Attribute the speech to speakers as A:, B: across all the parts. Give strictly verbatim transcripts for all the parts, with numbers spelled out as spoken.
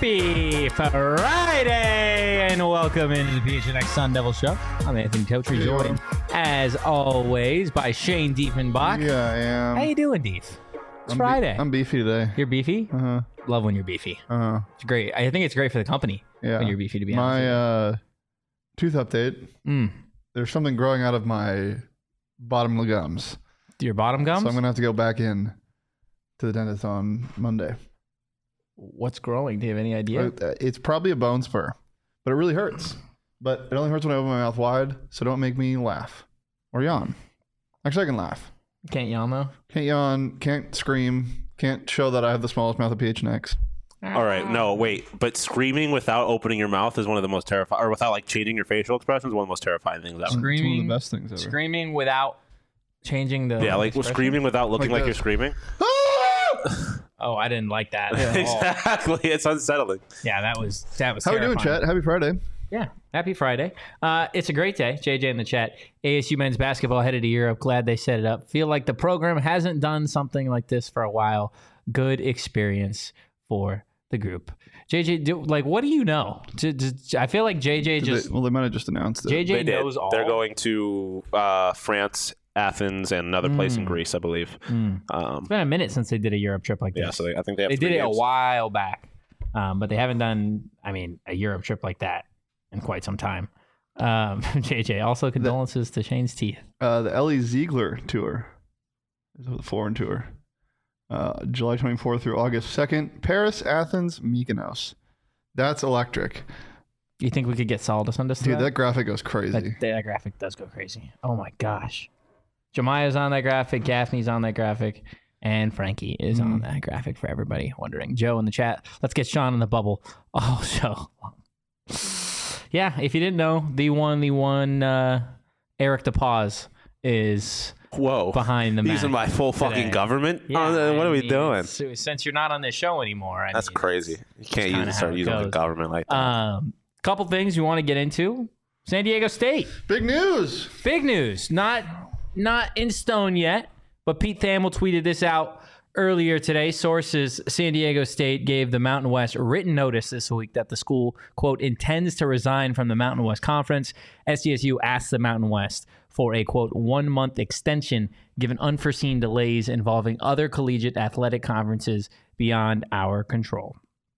A: Happy Friday and welcome into the P H N X Sun Devil Show. I'm Anthony Totri, joined as always by Shane Diefenbach.
B: Yeah, I am.
A: How you doing, Dief? It's
B: I'm
A: Friday.
B: Be- I'm beefy today.
A: You're beefy?
B: Uh-huh.
A: Love when you're beefy.
B: Uh-huh.
A: It's great. I think it's great for the company
B: Yeah.
A: when you're beefy, to be honest.
B: My uh, tooth update.
A: Mm.
B: There's something growing out of my bottom of the gums.
A: Your bottom gums?
B: So I'm going to have to go back in to the dentist on Monday.
A: What's growing? Do you have any idea?
B: Uh, It's probably a bone spur, but it really hurts. But it only hurts when I open my mouth wide, so don't make me laugh or yawn. Actually, I can laugh.
A: Can't yawn, though?
B: Can't yawn, can't scream, can't show that I have the smallest mouth of P H N X.
C: All right, no, wait, but screaming without opening your mouth is one of the most terrifying, or without like changing your facial expressions, is one of the most terrifying things ever.
A: Screaming,
B: It's one of the best things ever.
A: Screaming without changing the
C: Yeah, like
A: expression?
C: screaming without looking
B: Like
C: like,
B: this.
C: you're screaming.
A: Oh, I didn't like that at all.
C: Exactly, it's unsettling.
A: Yeah, that was that was
B: How are we doing,
A: terrifying.
B: chat? Happy Friday.
A: Yeah, happy Friday. Uh, it's a great day. J J in the chat. A S U men's basketball headed to Europe. Glad they set it up. Feel like the program hasn't done something like this for a while. Good experience for the group. J J, do, like, what do you know? J- j- I feel like J J
B: Did
A: just
B: they- well, they might have just announced it.
A: J J
C: They did.
A: knows all.
C: They're going to uh, France, Athens, and another place in
A: Mm.
C: Greece, I believe.
A: Mm.
C: Um,
A: It's been a minute since they did a Europe trip like this.
C: yeah, so they, I think they have.
A: they
C: three
A: did it a
C: games.
A: while back, um, but they haven't done, I mean, a Europe trip like that in quite some time. Um, J J, also condolences to Shane's teeth.
B: Uh, the Ellie Ziegler tour, is the foreign tour, uh, July twenty-fourth through August second. Paris, Athens, Mykonos. That's electric,
A: You think we could get Saldus on this?
B: dude. That graphic goes crazy.
A: That, that graphic does go crazy. Oh my gosh. Jemiah's on that graphic. Gaffney's on that graphic. And Frankie is on
B: Mm.
A: that graphic for everybody wondering. Joe in the chat. Let's get Sean in the bubble. Oh, so. Yeah, if you didn't know, the one, the one, uh, Eric DePause is
C: Whoa!
A: behind the
C: Using
A: Mac
C: my full fucking
A: today.
C: government.
A: Yeah,
C: Oh, then what
A: I
C: are we
A: mean,
C: doing?
A: so- Since you're not on this show anymore. I
C: That's
A: mean,
C: crazy. You can't
A: kinda
C: use
A: how
C: start
A: it
C: using the
A: goes.
C: government like that.
A: Um, couple things you want to get into. San Diego State.
B: Big news.
A: Big news. Not not in stone yet, but Pete Thamel tweeted this out earlier today. Sources, San Diego State gave the Mountain West written notice this week that the school, quote, intends to resign from the Mountain West Conference. S D S U asked the Mountain West for a, quote, one-month extension given unforeseen delays involving other collegiate athletic conferences beyond our control.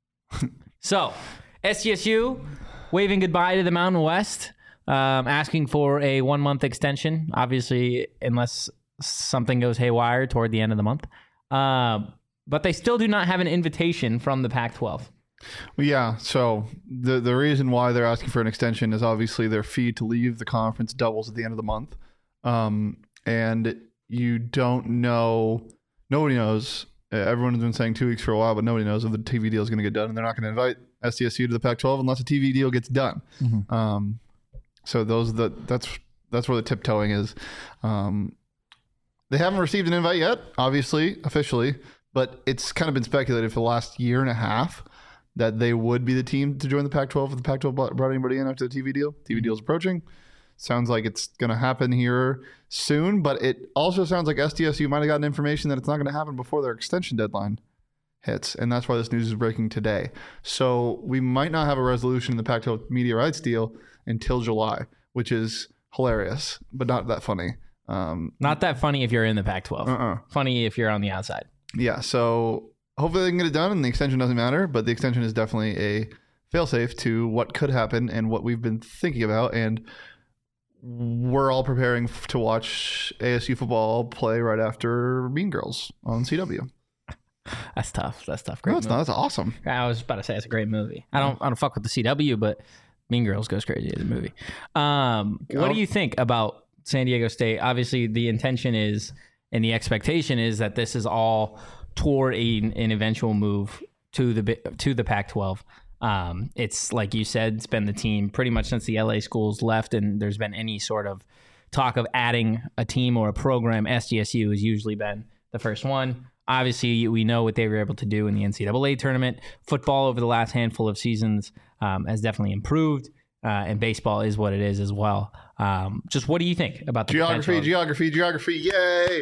A: So, S D S U waving goodbye to the Mountain West, um, asking for a one-month extension, obviously, unless something goes haywire toward the end of the month. Um, but they still do not have an invitation from the Pac twelve.
B: Well, yeah. So the the reason why they're asking for an extension is obviously their fee to leave the conference doubles at the end of the month, um, and you don't know. Nobody knows. Uh, everyone's been saying two weeks for a while, but nobody knows if the T V deal is going to get done, and they're not going to invite S D S U to the Pac twelve unless a T V deal gets done.
A: Mm-hmm.
B: Um, so those the that's that's where the tiptoeing is. Um, they haven't received an invite yet, obviously, officially, but it's kind of been speculated for the last year and a half that they would be the team to join the Pac twelve if the Pac twelve brought anybody in after the T V deal. T V deal is approaching. Sounds like it's going to happen here soon, but it also sounds like S D S U might have gotten information that it's not going to happen before their extension deadline hits, and that's why this news is breaking today. So we might not have a resolution in the Pac twelve media rights deal until July, which is hilarious, but not that funny. Um,
A: Not that funny if you're in the Pac twelve.
B: uh-uh.
A: Funny if you're on the outside.
B: Yeah, so hopefully they can get it done and the extension doesn't matter, but the extension is definitely a failsafe to what could happen and what we've been thinking about. And we're all preparing f- to watch A S U football play right after Mean Girls on C W.
A: That's tough. That's tough. Great
B: No, it's
A: movie.
B: not. That's awesome.
A: I was about to say it's a great movie. I don't I don't fuck with the C W, but Mean Girls goes crazy as a movie. Um, what do you think about San Diego State? Obviously, the intention is and the expectation is that this is all toward a, an eventual move to the to the Pac twelve. Um, it's like you said, it's been the team pretty much since the L A schools left, and there's been any sort of talk of adding a team or a program. S D S U has usually been the first one. Obviously, we know what they were able to do in the N C double A tournament. Football over the last handful of seasons um, has definitely improved, uh, and baseball is what it is as well. Um, just what do you think about the
B: Geography,
A: potential of-
B: geography, geography. Yay.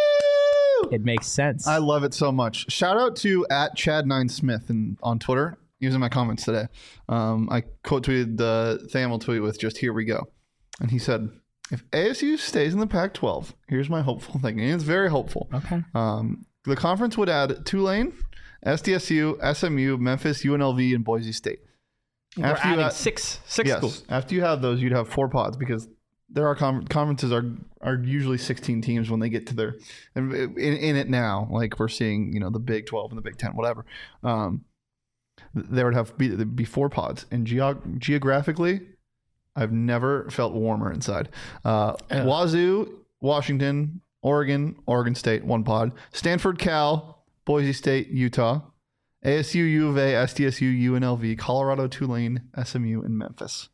B: Woo!
A: It makes sense.
B: I love it so much. Shout out to at Chad Nine Smith and on Twitter. He was in my comments today. Um, I quote tweeted the Thamel tweet with just "Here we go," and he said, "If A S U stays in the Pac twelve, here's my hopeful thing." And it's very hopeful.
A: Okay.
B: Um, the conference would add Tulane, S D S U, S M U, Memphis, U N L V, and Boise State.
A: We're
B: After you
A: adding
B: add-
A: six six
B: yes,
A: schools.
B: after you have those, you'd have four pods because there are con- conferences are are usually sixteen teams when they get to their in, in it now. Like we're seeing, you know, the Big twelve and the Big ten, whatever. Um, there would have be, be four pods, and geog- geographically, I've never felt warmer inside. Uh,
A: Yeah.
B: Wazoo, Washington, Oregon, Oregon State, one pod. Stanford, Cal, Boise State, Utah. A S U, U of A, S D S U, U N L V, Colorado, Tulane, S M U, and Memphis.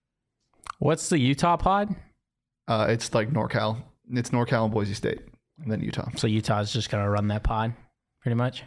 A: What's the Utah pod?
B: Uh, it's like NorCal. It's NorCal and Boise State, and then Utah.
A: So Utah's just gonna run that pod, pretty much.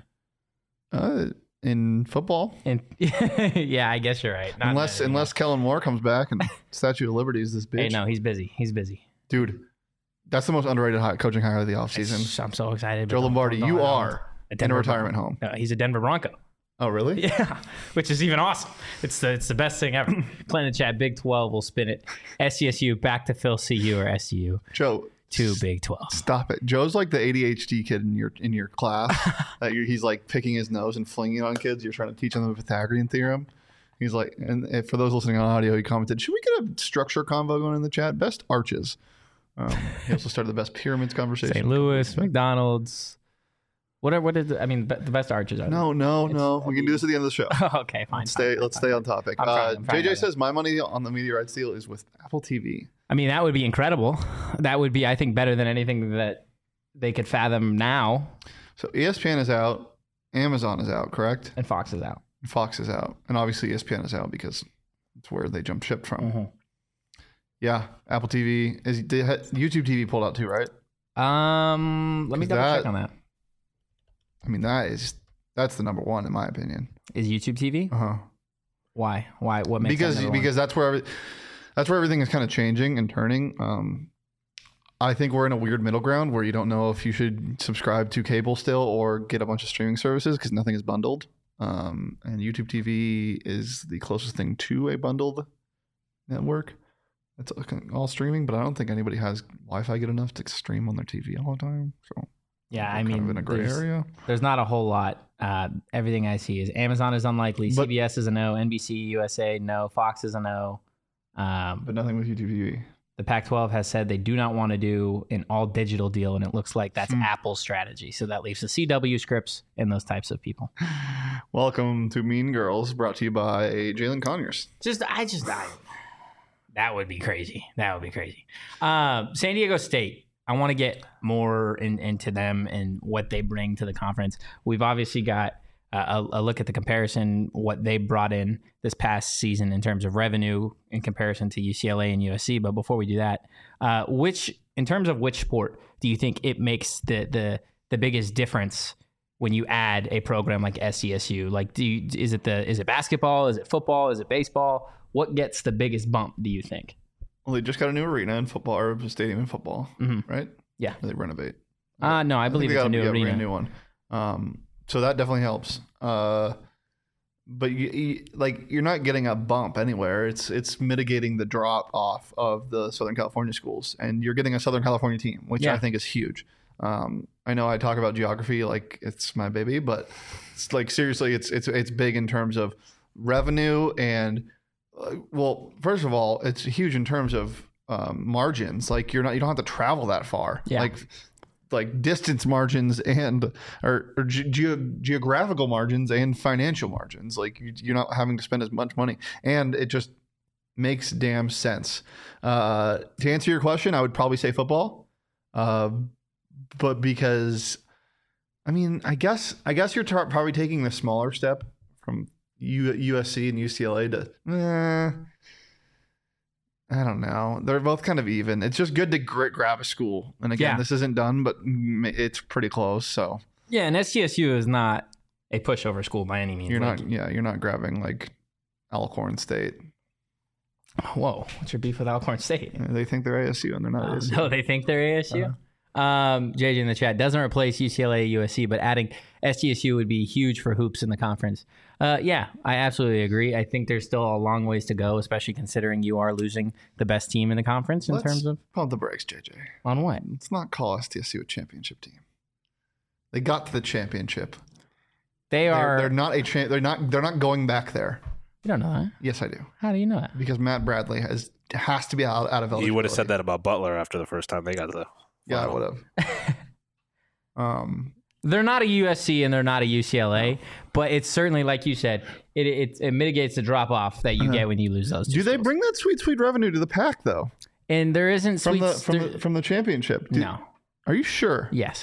B: Uh, in football,
A: And yeah, I guess you're right. Not
B: unless
A: anything
B: unless
A: else.
B: Kellen Moore comes back and Statue of Liberty is this bitch.
A: Hey, no, he's busy. He's busy.
B: Dude, that's the most underrated high, coaching hire of the offseason.
A: I'm so excited. but
B: Joe
A: don't-
B: Lombardi,
A: don't-
B: you
A: don't-
B: are
A: a
B: in a
A: Denver
B: retirement
A: Bronco.
B: home.
A: No, he's a Denver Bronco.
B: Oh, really?
A: Yeah, which is even awesome. It's the it's the best thing ever. Play in the chat. Big twelve will spin it. S C S U back to Phil C U or S C U
B: Joe,
A: to Big twelve.
B: stop it. Joe's like the A D H D kid in your in your class that you're, he's like picking his nose and flinging it on kids. You're trying to teach them the Pythagorean theorem. He's like, and if- for those listening on audio, he commented, "Should we get a structure convo going in the chat? Best arches." Um, he also started the best pyramids conversation.
A: Saint Louis, McDonald's. Whatever. What is it? I mean, be- the best arches are.
B: No, no,
A: It's-
B: no. We can do this at the end of the show.
A: okay, fine.
B: Let's stay.
A: fine,
B: Let's
A: fine.
B: stay on topic.
A: I'm trying,
B: Uh,
A: I'm trying
B: J J
A: to-
B: says my money on the media rights deal is with Apple T V.
A: I mean, that would be incredible. That would be, I think, better than anything that they could fathom now.
B: So E S P N is out, Amazon is out, correct?
A: And Fox is out.
B: Fox is out, and obviously E S P N is out because it's where they jump ship from. Yeah, Apple T V is they had- YouTube T V pulled out too, right?
A: Um, let me
B: 'Cause
A: double
B: that-
A: check on that.
B: I mean, that is that's the number one in my opinion.
A: Is YouTube T V?
B: Uh huh.
A: Why? Why? What makes
B: Because
A: that number one?
B: because that's where every, that's where everything is kind of changing and turning. Um, I think we're in a weird middle ground where you don't know if you should subscribe to cable still or get a bunch of streaming services because nothing is bundled. Um, and YouTube T V is the closest thing to a bundled network. It's all streaming, but I don't think anybody has Wi-Fi good enough to stream on their T V all the time. So
A: yeah,
B: we're
A: I
B: kind
A: mean,
B: of in a gray
A: there's,
B: area.
A: there's not a whole lot. Uh, everything I see is Amazon is unlikely.
B: But-
A: C B S is a no. N B C, U S A, no. Fox is a no. Um,
B: But nothing with YouTube T V.
A: the Pac twelve has said they do not want to do an all digital deal, and it looks like that's
B: Hmm.
A: Apple's strategy. So that leaves the C W Scripps and those types of people.
B: Welcome to Mean Girls, brought to you by Jalen Conyers.
A: Just, I just, I, that would be crazy. That would be crazy. Um, San Diego State. I want to get more in, into them and what they bring to the conference. We've obviously got uh, a, a look at the comparison, what they brought in this past season in terms of revenue in comparison to U C L A and U S C. But before we do that, uh, which, in terms of which sport, do you think it makes the the the biggest difference when you add a program like S C S U? Like, do you, is it the is it basketball? Is it football? Is it baseball? What gets the biggest bump, do you think?
B: Well, they just got a new arena in football, or a stadium in football,
A: Mhm.
B: right?
A: Yeah.
B: Or they renovate.
A: Uh, no, I
B: think
A: believe
B: they
A: it's
B: got
A: a new
B: yeah,
A: arena.
B: brand new one. Um, so that definitely helps. Uh, but you, you, like you're not getting a bump anywhere. It's it's mitigating the drop off of the Southern California schools, and you're getting a Southern California team, which
A: Yeah.
B: I think is huge. Um, I know I talk about geography like it's my baby, but it's like seriously, it's it's it's big in terms of revenue and uh, well, first of all, it's huge in terms of um, margins. Like you're not you don't have to travel that far.
A: Yeah.
B: Like like distance margins and or, or ge- ge- geographical margins and financial margins. Like you, you're not having to spend as much money, and it just makes damn sense. Uh, to answer your question, I would probably say football, uh, but because I mean, I guess I guess you're tar- probably taking the smaller step from U- USC and U C L A to. Eh, I don't know. They're both kind of even. It's just good to gr- grab a school. And again,
A: Yeah.
B: this isn't done, but mm, it's pretty close. So
A: Yeah, and S C S U is not a pushover school by any means.
B: you're
A: Like,
B: not, yeah, you're not grabbing like Alcorn State.
A: whoa, what's your beef with Alcorn State?
B: They think they're A S U and they're not
A: Uh,
B: A S U.
A: no, they think they're A S U.
B: Uh-huh.
A: Um, J J in the chat doesn't replace U C L A, U S C, but adding S D S U would be huge for hoops in the conference. Uh, yeah, I absolutely agree. I think there's still a long ways to go, especially considering you are losing the best team in the conference in
B: Let's
A: terms of
B: pump the brakes, J J.
A: on what?
B: Let's not call S D S U a championship team. They got to the championship.
A: They
B: They're,
A: are.
B: they're not a cha- they're not they're not going back there.
A: You don't know that.
B: Yes, I do.
A: How do you know that?
B: Because Matt Bradley has has to be out, out of eligibility.
C: You would have said that about Butler after the first time they got to the
B: Yeah, I
C: final.
B: would have. um,
A: They're not a U S C and they're not a U C L A, but it's certainly, like you said, it it, it mitigates the drop off that you
B: Uh-huh.
A: get when you lose those. Two
B: do they
A: schools.
B: bring that sweet sweet revenue to the pack though?
A: And there isn't
B: From
A: sweet
B: the from
A: there-
B: the from the championship? Do-
A: no.
B: Are you sure?
A: Yes.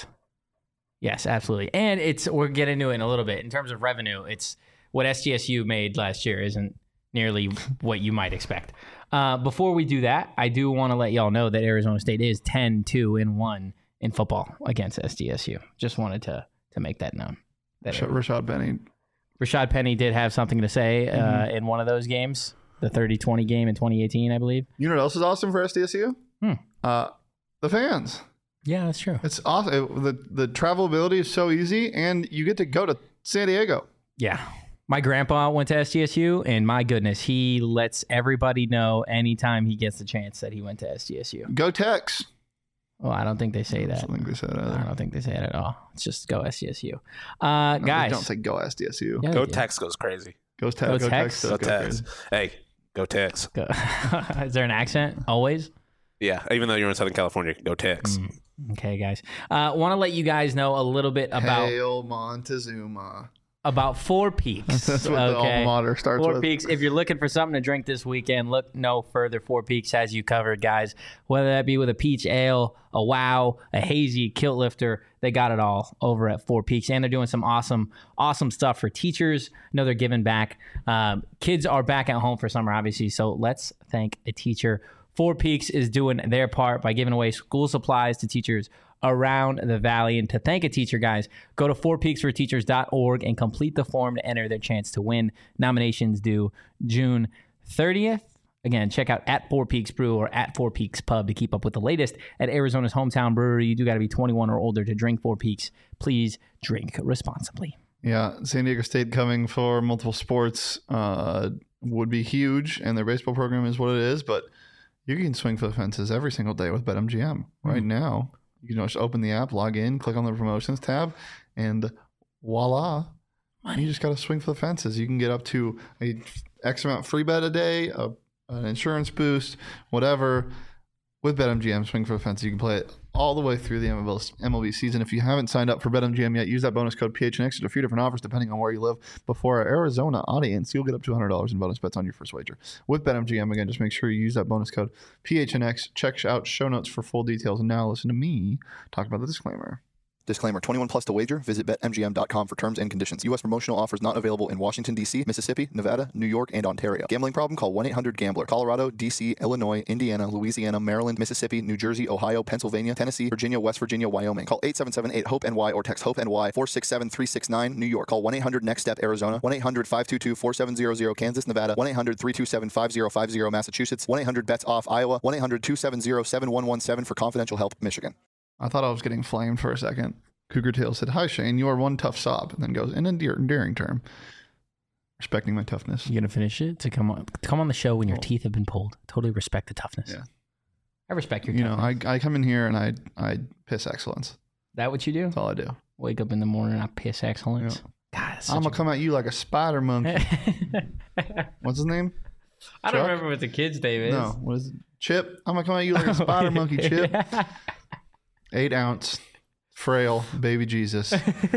A: Yes, absolutely. And it's we're getting into it in a little bit in terms of revenue. It's what S D S U made last year isn't nearly what you might expect. Uh, before we do that, I do want to let y'all know that Arizona State is ten two and one in football against S D S U. Just wanted to to make that known. That
B: Rashad, Rashad Penny.
A: Rashad Penny did have something to say uh,
B: Mhm.
A: in one of those games, the thirty twenty game in twenty eighteen, I believe.
B: You know what else is awesome for S D S U?
A: Hmm.
B: Uh, the fans.
A: Yeah, that's true.
B: It's awesome. It- the the travelability is so easy, and you get to go to San Diego.
A: Yeah. My grandpa went to S D S U, and my goodness, he lets everybody know anytime he gets the chance that he went to S D S U.
B: Go Tex.
A: Well, I don't think they say
B: I
A: that.
B: don't think they said that
A: I
B: either.
A: don't think they say it at all. It's just go S D S U. Uh,
B: No, they
A: guys.
B: don't say go S D S U.
A: Yeah,
C: Go
A: they do.
C: Tex goes crazy.
B: Go, te-
A: Go
B: go
A: Tex.
B: Tex.
C: Go
B: Go
C: Tex.
B: crazy.
C: Hey, go Tex.
A: Go. Is there an accent? Always?
C: Yeah, even though you're in Southern California, go Tex.
A: Mm. Okay, guys. Uh, want to let you guys know a little bit about
B: Hail Montezuma.
A: about Four Peaks.
B: That's what the alma mater starts
A: Four
B: with.
A: Peaks. If you're looking for something to drink this weekend, look no further. Four Peaks has you covered, guys. Whether that be with a peach ale, a wow, a hazy, kilt lifter, they got it all over at Four Peaks. And they're doing some awesome, awesome stuff for teachers. I know they're giving back. Um, kids are back at home for summer, obviously. So let's thank a teacher. Four Peaks is doing their part by giving away school supplies to teachers around the valley. And to thank a teacher, guys, go to four peaks for teachers dot org and complete the form to enter their chance to win. Nominations due June thirtieth. Again, check out at Four Peaks Brew or at Four Peaks Pub to keep up with the latest at Arizona's hometown brewery. You do got to be twenty-one or older to drink Four Peaks. Please drink responsibly.
B: Yeah, San Diego State coming for multiple sports uh, would be huge, and their baseball program is what it is, but you can swing for the fences every single day with BetMGM. Right now, you can just open the app, log in, click on the promotions tab, and voila, you just got to swing for the fences. You can get up to a X amount free bet a day, a, an insurance boost, whatever. With BetMGM, swing for the fences. You can play it all the way through the M L B season. If you haven't signed up for BetMGM yet, use that bonus code P H N X. There's a few different offers depending on where you live. Before our Arizona audience, you'll get up to one hundred dollars in bonus bets on your first wager. With BetMGM, again, just make sure you use that bonus code P H N X. Check out show notes for full details. And now listen to me talk about the disclaimer.
D: Disclaimer, twenty-one plus to wager. Visit bet M G M dot com for terms and conditions. U S promotional offers not available in Washington, D C, Mississippi, Nevada, New York, and Ontario. Gambling problem? Call one eight hundred gambler. Colorado, D C, Illinois, Indiana, Louisiana, Maryland, Mississippi, New Jersey, Ohio, Pennsylvania, Tennessee, Virginia, West Virginia, Wyoming. Call eight seven seven eight hope N Y or text HOPE-NY four six seven three six nine. New York. Call one eight hundred next step Arizona. one eight hundred five two two four seven zero zero. Kansas, Nevada. one eight hundred three two seven five zero five zero. Massachusetts. one eight hundred bets off Iowa. one eight hundred two seven zero seven one one seven for confidential help. Michigan.
B: I thought I was getting flamed for a second. Cougar Tail said, "Hi, Shane. You are one tough sob." And then goes, in an endear- endearing term. Respecting my toughness.
A: You gonna finish it to come on to come on the show when your
B: Cool.
A: teeth have been pulled? Totally respect the toughness.
B: Yeah.
A: I respect your
B: You know,
A: toughness.
B: I, I come in here and I I piss excellence.
A: that what you do?
B: That's all I do.
A: Wake up in the morning, I piss excellence. God, that's
B: I'm
A: such
B: going to come at you like a spider monkey.
A: a...
B: What's his name?
A: I don't
B: Chuck?
A: remember what the kid's name is.
B: No, what is it? Chip. I'm going to come at you like a spider monkey, Chip. Eight ounce, frail, baby Jesus.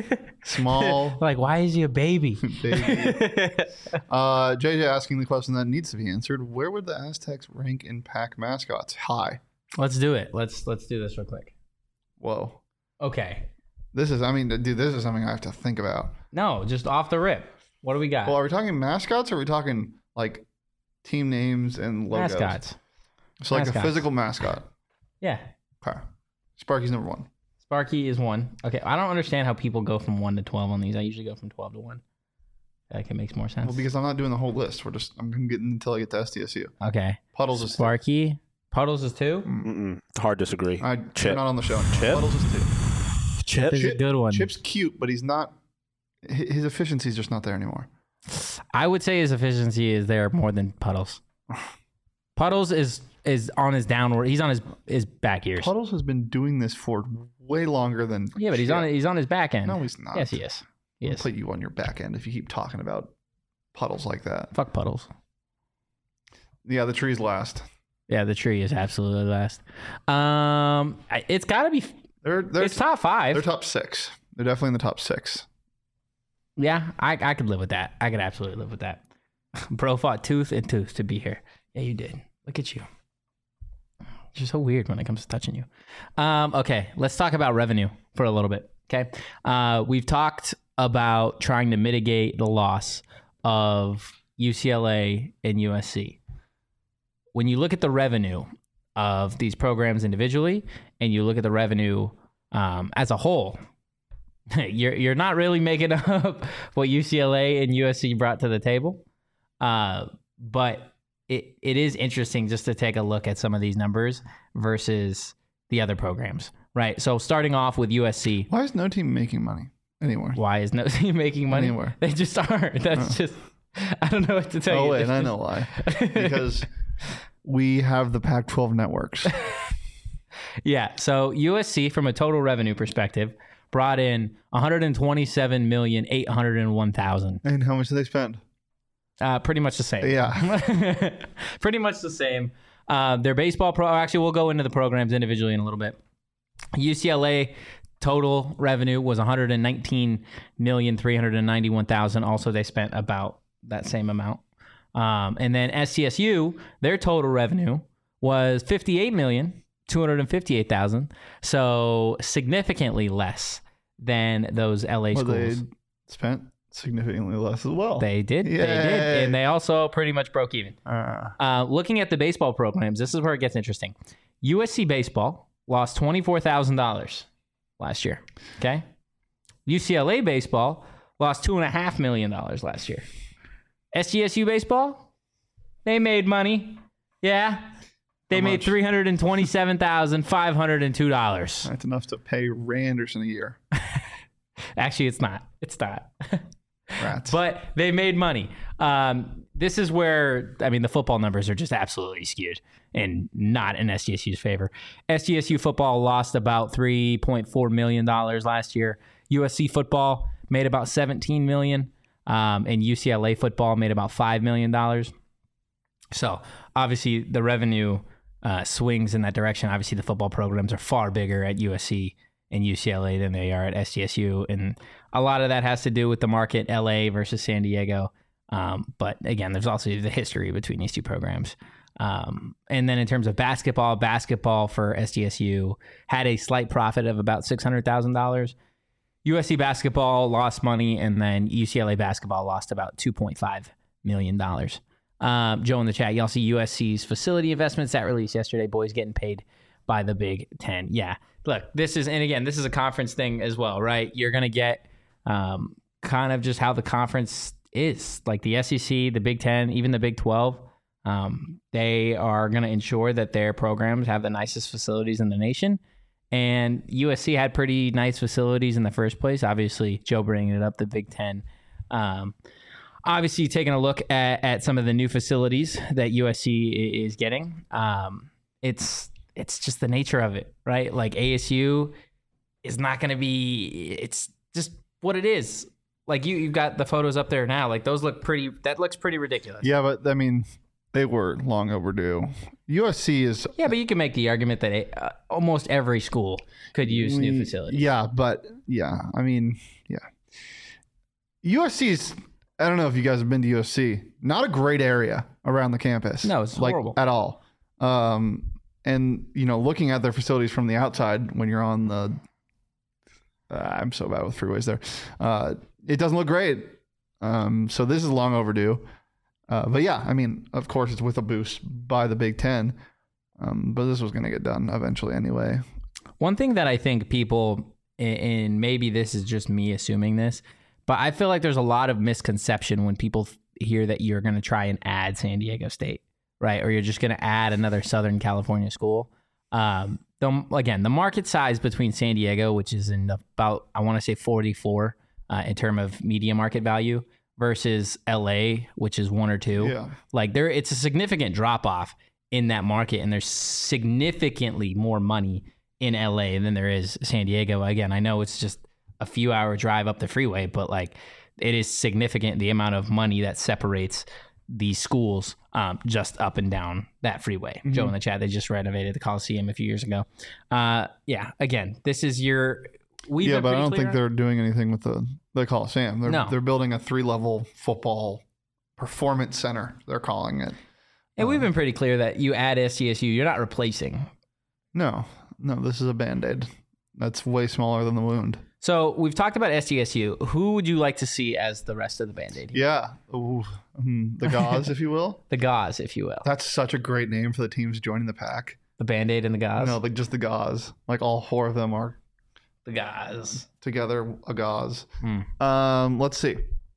B: Small,
A: Like, why is he a baby?
B: baby. Uh, J J asking the question that needs to be answered. Where would the Aztecs rank in pack mascots? High.
A: Let's do it. Let's let's do this real quick.
B: Whoa.
A: Okay.
B: This is, I mean, dude, this is something I have to think about.
A: No, just off the rip. What do we got?
B: Well, are we talking mascots or are we talking like team names and logos?
A: Mascots.
B: So like a
A: Mascots.
B: physical mascot.
A: Yeah.
B: Okay. Sparky's number one.
A: Sparky is one. Okay. I don't understand how people go from one to twelve on these. I usually go from twelve to one. Like it makes more sense.
B: Well, because I'm not doing the whole list. We're just, I'm going to get until I get to S D S U.
A: Okay.
B: Puddles of
A: Sparky, Puddles is two.
C: Mm-mm. Hard disagree.
B: I,
C: Chip.
B: You're not on the show anymore.
C: Chip?
B: Puddles is two.
C: Chip.
A: Is a good one.
B: Chip's cute, but he's not. hi- His efficiency is just not there anymore.
A: I would say his efficiency is there more than Puddles. Puddles is is on his downward. He's on his his back ears.
B: Puddles has been doing this for way longer than.
A: Yeah, but he's
B: Chip.
A: on he's on his back end.
B: No, he's not.
A: Yes, he is. He
B: I'll
A: is.
B: put you on your back end if you keep talking about Puddles like that.
A: Fuck Puddles.
B: Yeah, the tree's last.
A: Yeah, the tree is absolutely last. Um, I- it's got to be.
B: They're they're
A: It's top five.
B: they're top six. They're definitely in the top six.
A: Yeah, I I could live with that. I could absolutely live with that. Bro fought tooth and tooth to be here. Yeah, you did. Look at you. You're so weird when it comes to touching you. Um, okay, let's talk about revenue for a little bit. Okay, uh, we've talked about trying to mitigate the loss of U C L A and U S C. When you look at the revenue of these programs individually, and you look at the revenue um, as a whole, you're you're not really making up what U C L A and U S C brought to the table. Uh, but it it is interesting just to take a look at some of these numbers versus the other programs, right? So starting off with U S C,
B: Why is no team making money anywhere?
A: why is no team making money?
B: Anywhere.
A: They just aren't. That's just I don't know what to tell
B: Oh
A: you.
B: wait,
A: That's
B: I
A: just-
B: know why. Because we have the Pac twelve networks.
A: Yeah. So U S C, from a total revenue perspective, brought in one hundred twenty-seven million eight hundred one thousand.
B: And how much do they spend?
A: Uh, pretty much the same.
B: Yeah.
A: Pretty much the same. Uh, their baseball pro. Actually, we'll go into the programs individually in a little bit. U C L A total revenue was one hundred nineteen million three hundred ninety-one thousand. Also, they spent about that same amount. Um, and then S C S U, their total revenue was fifty-eight million two hundred fifty-eight thousand. So significantly less than those L A
B: Well,
A: schools.
B: they spent significantly less as well.
A: They did. They
B: Yay.
A: did. And they also pretty much broke even.
B: Uh,
A: Uh, looking at the baseball programs, this is where it gets interesting. U S C baseball lost twenty-four thousand dollars last year. Okay. U C L A baseball lost two point five million dollars last year. S G S U baseball, they made money. Yeah. They
B: How
A: made
B: much?
A: three hundred twenty-seven thousand five hundred two dollars.
B: that's enough to pay Randerson a year.
A: Actually, it's not. It's not.
B: Rats.
A: But they made money. Um, this is where, I mean, the football numbers are just absolutely skewed and not in S G S U's favor. S G S U football lost about three point four million dollars last year. U S C football made about seventeen million dollars, um, and U C L A football made about five million dollars. So obviously the revenue uh, swings in that direction. Obviously the football programs are far bigger at U S C and U C L A than they are at S G S U. And a lot of that has to do with the market, L A versus San Diego. Um, but again, there's also the history between these two programs. Um, and then in terms of basketball, basketball for S G S U had a slight profit of about six hundred thousand dollars. U S C basketball lost money, and then U C L A basketball lost about two point five million dollars. Um, Joe in the chat, y'all see U S C's facility investments that released yesterday. Boys getting paid by the Big Ten. Yeah, look, this is, and again, this is a conference thing as well, right? You're going to get um, kind of just how the conference is. Like the S E C, the Big Ten, even the Big twelve, um, they are going to ensure that their programs have the nicest facilities in the nation. And U S C had pretty nice facilities in the first place. Obviously, Joe bringing it up, the Big Ten. Um, obviously, taking a look at, at some of the new facilities that U S C is getting. Um, it's it's just the nature of it, right? Like A S U is not going to be. It's just what it is. Like you, you've got the photos up there now. Like those look pretty. That looks pretty ridiculous.
B: yeah, but I mean, they were long overdue. U S C is
A: Yeah, but you can make the argument that a, uh, almost every school could use new facilities.
B: Yeah, but yeah, I mean, yeah. U S C is, I don't know if you guys have been to U S C, not a great area around the campus.
A: No, it's
B: like
A: horrible.
B: at all. Um, and you know, looking at their facilities from the outside when you're on the, uh, I'm so bad with freeways there. Uh, it doesn't look great. Um, so this is long overdue. Uh, but yeah, I mean, of course, it's with a boost by the Big Ten. Um, but this was going to get done eventually anyway.
A: One thing that I think people, and maybe this is just me assuming this, but I feel like there's a lot of misconception when people hear that you're going to try and add San Diego State, right? Or you're just going to add another Southern California school. Um, the, again, the market size between San Diego, which is in about, I want to say forty-four uh, in terms of media market value, versus L A, which is one or two.
B: Yeah.
A: Like there, it's a significant drop off in that market, and there's significantly more money in L A than there is San Diego. Again, I know it's just a few hour drive up the freeway, but like it is significant the amount of money that separates these schools um, just up and down that freeway. Mm-hmm. Joe in the chat, they just renovated the Coliseum a few years ago. Uh, yeah, again, this is your... We've
B: yeah, but I don't think
A: on...
B: they're doing anything with the, the Coliseum. They're,
A: no.
B: they're building a three-level football performance center, they're calling it.
A: And we've been pretty clear that you add S D S U, you're not replacing.
B: No, no, this is a Band-Aid. That's way smaller than the wound.
A: So we've talked about S D S U. Who would you like to see as the rest of the Band-Aid?
B: Yeah. Ooh, mm, the Gauze, if you will.
A: The Gauze, if you will.
B: That's such a great name for the teams joining the pack.
A: The Band-Aid and the Gauze?
B: No, like just the Gauze. Like all four of them are
A: the Gauze.
B: Together, a Gauze.
A: Hmm.
B: Um, let's see.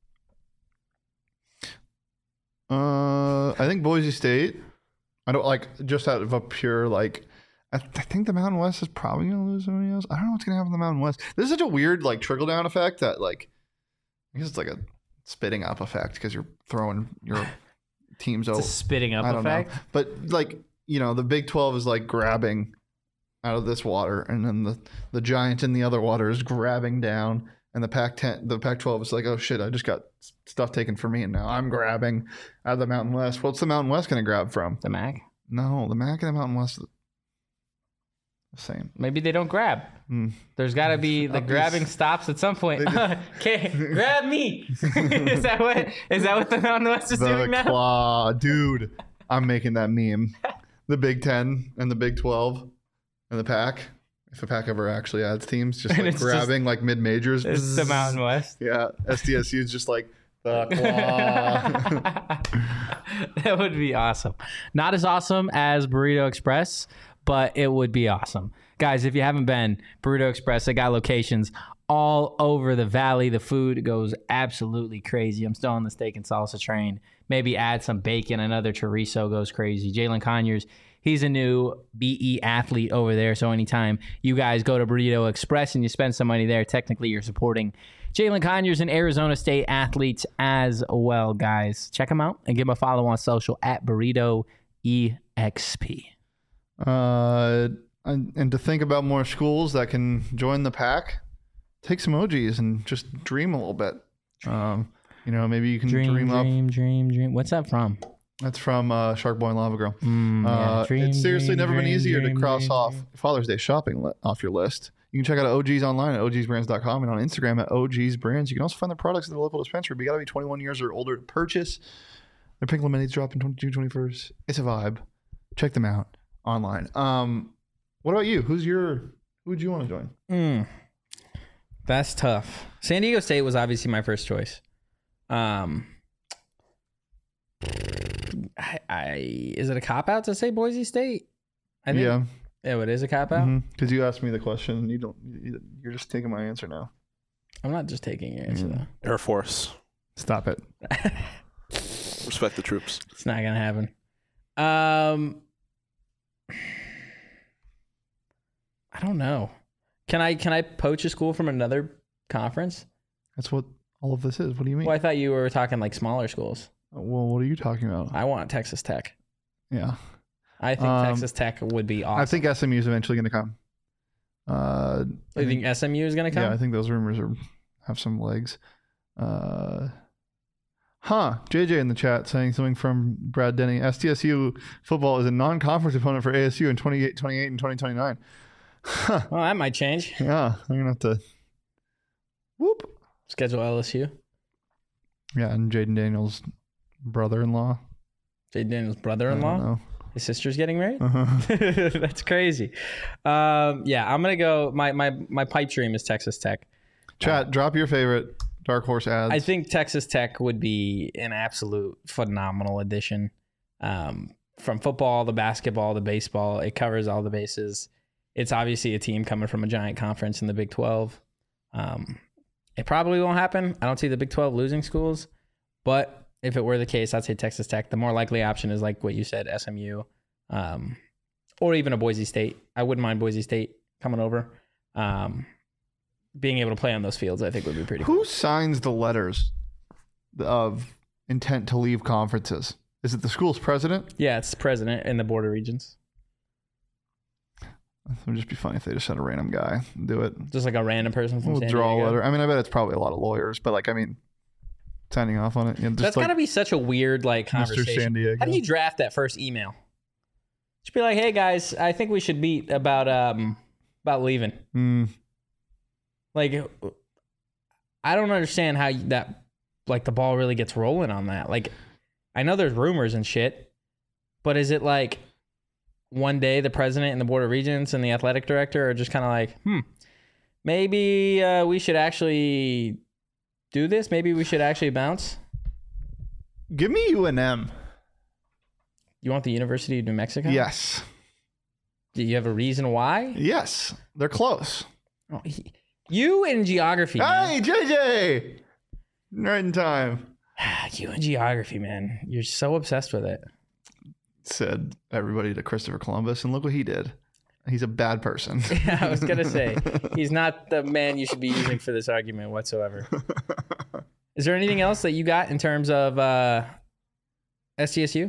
B: Uh, I think Boise State. I don't like just out of a pure like. I, th- I think the Mountain West is probably gonna lose somebody else. I don't know what's gonna happen to the Mountain West. This is such a weird like trickle down effect that like. I guess it's like a spitting up effect because you're throwing your teams over.
A: It's a spitting up
B: I don't
A: effect.
B: know. But like you know, the Big twelve is like grabbing out of this water, and then the the giant in the other water is grabbing down. And the Pac ten, the Pac twelve is like, oh shit, I just got stuff taken from me, and now I'm grabbing out of the Mountain West. What's the Mountain West going to grab from?
A: The M A C?
B: No, the M A C and the Mountain West are the same.
A: Maybe they don't grab.
B: Mm.
A: There's got to be the
B: Obvious.
A: grabbing stops at some point. Okay, grab me. is that what is that what the Mountain West is
B: The
A: doing now?
B: claw, dude. I'm making that meme. The Big Ten and the Big twelve and the Pac. If a Pac ever actually adds teams, just like grabbing just, like mid majors.
A: It's the Mountain West.
B: Yeah, S D S U is just like the claw.
A: That would be awesome. Not as awesome as Burrito Express, but it would be awesome. Guys, if you haven't been, Burrito Express, they got locations all over the valley. The food goes absolutely crazy. I'm still on the steak and salsa train. Maybe add some bacon. Another chorizo goes crazy. Jalen Conyers, he's a new B E athlete over there. So anytime you guys go to Burrito Express and you spend some money there, technically you're supporting Jalen Conyers and Arizona State athletes as well, guys. Check them out and give them a follow on social at Burrito E X P.
B: Uh, and, and to think about more schools that can join the pack, take some O Gs and just dream a little bit. Um, you know, maybe you can
A: dream,
B: dream,
A: dream
B: up.
A: Dream, dream, dream. What's that from?
B: That's from uh, Shark Boy and Lava Girl.
A: Mm,
B: uh,
A: yeah. dream,
B: it's seriously
A: dream,
B: never been
A: dream,
B: easier
A: dream,
B: to cross
A: dream,
B: off
A: dream.
B: Father's Day shopping li- off your list. You can check out O Gs online at O Gs brands dot com and on Instagram at O Gs brands. You can also find their products at the local dispensary, but you got to be twenty-one years or older to purchase. Their pink lemonades drop in twenty-two, twenty-first. It's a vibe. Check them out online. Um, what about you? Who's your? Who would you want to join?
A: Mm, that's tough. San Diego State was obviously my first choice. Um, I, I is it a cop out to say Boise State? I think,
B: Yeah,
A: yeah, it is a cop out.
B: because you asked me the question. And you don't. you- You're just taking my answer now.
A: I'm not just taking your answer
B: Mm.
A: though.
C: Air Force.
B: Stop it.
C: Respect the troops.
A: It's not gonna happen. Um, I don't know. Can I can I poach a school from another conference?
B: That's what all of this is. What do you mean?
A: Well, I thought you were talking like smaller schools.
B: Well, what are you talking about?
A: I want Texas Tech.
B: Yeah.
A: I think
B: Um,
A: Texas Tech would be awesome.
B: I think S M U is eventually going to come. Uh, I
A: You think S M U is gonna come?
B: Yeah, I think those rumors are have some legs. Uh, huh. J J in the chat saying something from Brad Denny. S D S U football is a non-conference opponent for A S U in twenty-eight, twenty-eight and twenty twenty-nine. Huh.
A: Well, that might change.
B: Yeah, I'm gonna have to. Whoop.
A: Schedule L S U.
B: Yeah, and Jaden Daniels' brother-in-law.
A: Jay Daniels'
B: I
A: brother-in-law.
B: don't know.
A: His sister's getting married.
B: Uh-huh.
A: That's crazy. Um, yeah, I'm gonna go. My my my pipe dream is Texas Tech.
B: Chat, drop your favorite dark horse ads.
A: I think Texas Tech would be an absolute phenomenal addition. Um, from football, the basketball, the baseball, it covers all the bases. It's obviously a team coming from a giant conference in the Big twelve. Um, it probably won't happen. I don't see the Big twelve losing schools, but if it were the case, I'd say Texas Tech. The more likely option is like what you said, S M U, um, or even a Boise State. I wouldn't mind Boise State coming over. Um, being able to play on those fields, I think would be pretty
B: Who
A: cool.
B: signs the letters of intent to leave conferences? Is it the school's president?
A: Yeah, it's the president in the border regions.
B: It would just be funny if they just had a random guy do it.
A: Just like a random person from
B: We'll
A: San
B: draw a
A: Diego.
B: letter. I mean, I bet it's probably a lot of lawyers, but like, I mean, signing off on it. You know, just
A: That's
B: like
A: gotta be such a weird like
B: Mister
A: conversation.
B: San Diego.
A: How do you draft that first email? Just be like, hey guys, I think we should meet about um about leaving.
B: Mm,
A: Like, I don't understand how you- that like the ball really gets rolling on that. Like, I know there's rumors and shit, but is it like one day the president and the board of regents and the athletic director are just kind of like, hmm, maybe uh, we should actually do this. Maybe we should actually bounce.
B: give me U N M.
A: You want the University of New Mexico?
B: Yes.
A: Do you have a reason why?
B: Yes. They're close.
A: Oh, he- you in geography, man.
B: Hey, J J! Right in time.
A: You in geography, man. You're so obsessed with it.
B: Said everybody to Christopher Columbus, and look what he did. He's a bad person.
A: Yeah, I was gonna say he's not the man you should be using for this argument whatsoever. Is there anything else that you got in terms of uh, S T S U?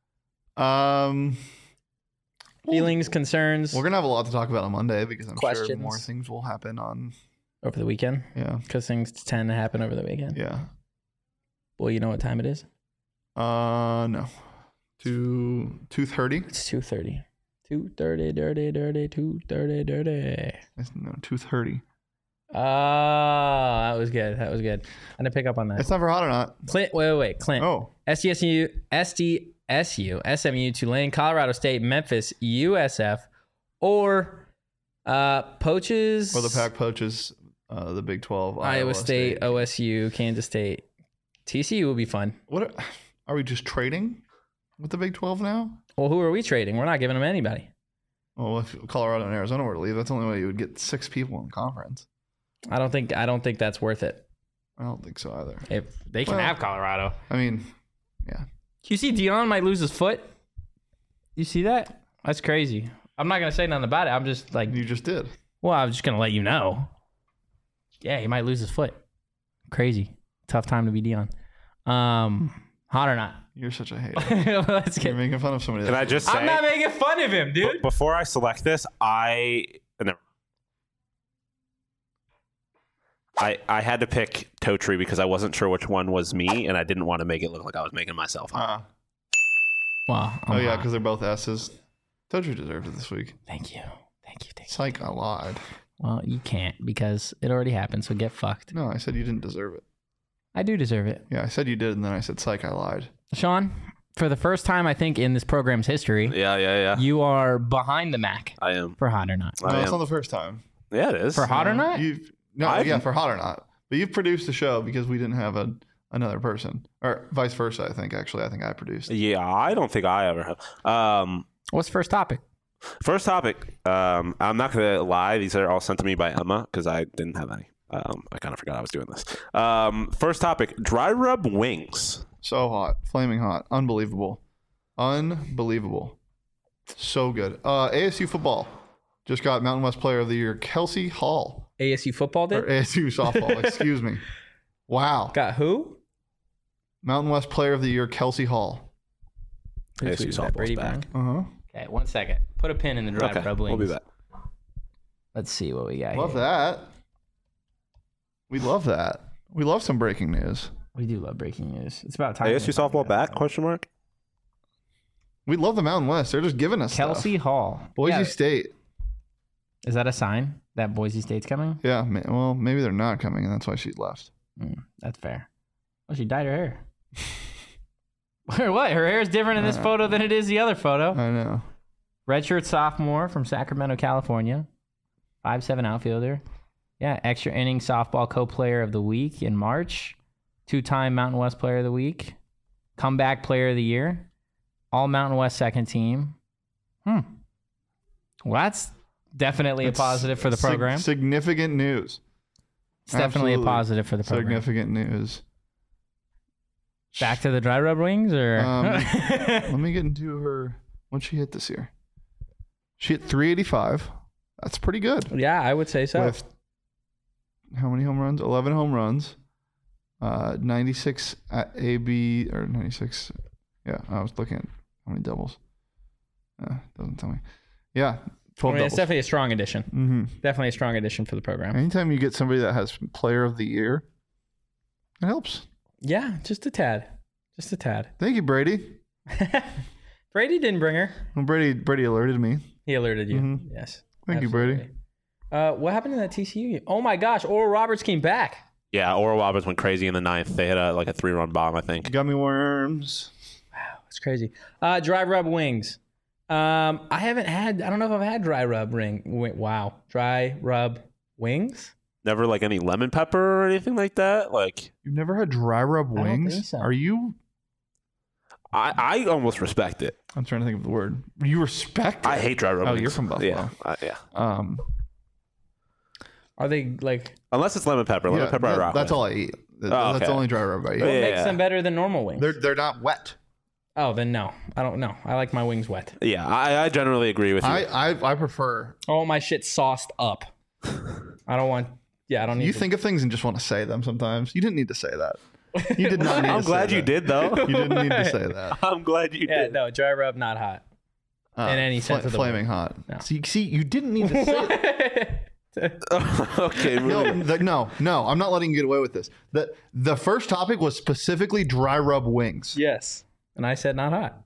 B: Um,
A: Feelings, concerns
B: we're gonna have a lot to talk about on Monday because I'm sure
A: Questions.
B: more things will happen on.
A: over the weekend?
B: Yeah,
A: Because things tend to happen over the weekend.
B: yeah.
A: Well, you know what time it is?
B: Uh, no. Two two thirty.
A: It's two thirty. two thirty, dirty, dirty, two thirty, dirty.
B: No, two thirty.
A: Oh, that was good. That was good. I didn't pick up on that.
B: It's never hot or not.
A: Clint, wait, wait, wait. Clint.
B: Oh,
A: S D S U, S D S U, S M U, Tulane, Colorado State, Memphis, U S F, or uh, Poaches.
B: or the Pac poaches. Uh, the Big twelve.
A: Iowa State, O S U, Kansas State. T C U will be fun.
B: What are, are we just trading with the Big twelve now?
A: Well, who are we trading? We're not giving them anybody.
B: Well, if Colorado and Arizona were to leave, that's the only way you would get six people in the conference.
A: I don't think. I don't think that's worth it.
B: I don't think so either.
A: If they can
B: Well-
A: have Colorado.
B: I mean, yeah.
A: You see, Dion might lose his foot. You see that? That's crazy. I'm not gonna say nothing about it. I'm just like,
B: You just did.
A: well, I'm just gonna let you know. Yeah, he might lose his foot. Crazy. Tough time to be Dion. Um, hot or not?
B: You're such a hater.
A: Let's
B: You're
A: get.
B: making fun of somebody.
C: Can I
B: that-
C: just say,
A: I'm not making fun of him,
C: b-
A: dude.
C: before I select this, I never. I, I had to pick Totri because I wasn't sure which one was me, and I didn't want to make it look like I was making myself up.
B: Uh,
A: Wow.
B: oh
A: I'm
B: yeah,
A: hot.
B: because they're both S's. Totri deserved it this week.
A: Thank you. Thank you. Thank you.
B: Psych, I lied.
A: Well, you can't because it already happened. So get fucked.
B: No, I said you didn't deserve it.
A: I do deserve it,
B: Yeah, I said you did, and then I said psych, I lied.
A: Sean. For the first time, I think in this program's history,
C: Yeah, yeah, yeah.
A: you are behind the Mac
C: I am.
A: for hot or not.
C: I
B: No, it's
C: am.
B: not the first time.
C: Yeah, it is.
A: For hot or not?
B: You've no,
C: I've-
B: yeah, for hot or not. But you've produced the show because we didn't have a another person, or vice versa. I think actually, I think I produced.
C: Yeah, I don't think I ever have. Um,
A: What's first topic?
C: first topic. Um, I'm not gonna lie; these are all sent to me by Emma because I didn't have any. Um, I kind of forgot I was doing this. Um, first topic: dry rub wings.
B: So hot, flaming hot, unbelievable, unbelievable, so good. Uh, A S U football just got Mountain West Player of the Year, Kelsey Hall,
A: A S U football did?
B: or A S U softball. Excuse me. Wow,
A: Got who?
B: Mountain West Player of the Year, Kelsey Hall.
A: Who
C: A S U
A: tweeted that?
C: softball's
A: Brady
C: back.
A: Brown?
B: Uh huh.
A: Okay, one second. Put a pin in the dry
C: Okay,
A: rub wings.
C: we'll be back.
A: Let's see what we got
B: Love
A: here.
B: that. We love that. We love some breaking news.
A: We do love breaking news. It's about time.
C: A S U softball back? Question mark.
B: We love the Mountain West. They're just giving us
A: Kelsey
B: stuff.
A: Hall.
B: Boise
A: Yeah.
B: State.
A: Is that a sign that Boise State's coming?
B: Yeah, ma- well, maybe they're not coming, and that's why she left.
A: Mm, that's fair. Well, she dyed her hair. Or what? Her hair is different in this
B: Uh,
A: photo than it is the other photo.
B: I know.
A: Redshirt sophomore from Sacramento, California. five seven outfielder. Yeah, extra inning softball co-player of the week in March. Two-time Mountain West Player of the Week. Comeback Player of the Year. All Mountain West second team. Hmm. Well, that's definitely
B: It's
A: a positive for the
B: sig-
A: program.
B: significant news.
A: It's definitely a
B: Absolutely.
A: positive for the program.
B: Significant news.
A: Back to the dry rub wings, or
B: Um, let me get into her. What'd she hit this year? She hit three eighty-five. That's pretty good.
A: yeah, I would say so.
B: With how many home runs? eleven home runs. Uh, ninety-six at A B or ninety-six. Yeah, I was looking at how many doubles. Uh, doesn't tell me. Yeah,
A: I
B: twelve
A: mean,
B: doubles.
A: it's definitely a strong addition.
B: Mm-hmm.
A: Definitely a strong addition for the program.
B: Anytime you get somebody that has Player of the Year, it helps.
A: Yeah, just a tad, just a tad.
B: Thank you, Brady.
A: Brady didn't bring her.
B: Well, Brady Brady alerted me.
A: He alerted you.
B: Mhm.
A: Yes.
B: Thank you,
A: absolutely.
B: Brady.
A: Uh, what happened in that T C U game? Oh my gosh, Oral Roberts came back.
C: Yeah, Oral Roberts went crazy in the ninth. They hit a, like a three-run bomb, I think.
B: Gummy worms.
A: It's crazy. Uh, dry rub wings. Um, I haven't had. I don't know if I've had dry rub ring. wi- Wow, dry rub wings.
C: Never like any lemon pepper or anything like that. Like
B: You've never had dry rub
A: I don't
B: wings?
A: think so.
B: Are you?
C: I, I almost respect it.
B: I'm trying to think of the word. You respect it?
C: I hate dry rub
B: Oh,
C: wings.
B: you're from Buffalo.
C: Yeah, I- yeah.
B: Um,
A: Are they like?
C: Unless it's lemon pepper. Lemon
B: yeah,
C: pepper I
B: that-
C: rock
B: that's
C: with.
B: all I eat. That-
C: Oh,
B: that's
C: okay.
B: the only dry rub I eat.
A: What
C: Yeah.
A: makes them better than normal wings?
B: They're they're not wet.
A: oh, then no. I don't know. I like my wings wet.
C: Yeah, I, I generally agree with you.
B: I, I I prefer.
A: I want my shit sauced up. I don't want. Yeah, I don't need.
B: You
A: to-
B: think of things and just want to say them sometimes. You didn't need to say that. You did not need
C: I'm
B: to
C: glad
B: say
C: you
B: that.
C: did, though.
B: You didn't need to say that.
C: I'm glad you
A: Yeah,
C: did.
A: no, dry rub not hot.
B: Uh,
A: In any sense of the
B: flaming hot.
A: No.
B: See, see, you didn't need to say it.
C: Okay,
B: No,
C: moving.
B: the, no, no. I'm not letting you get away with this. The the first topic was specifically dry rub wings.
A: Yes, and I said not hot.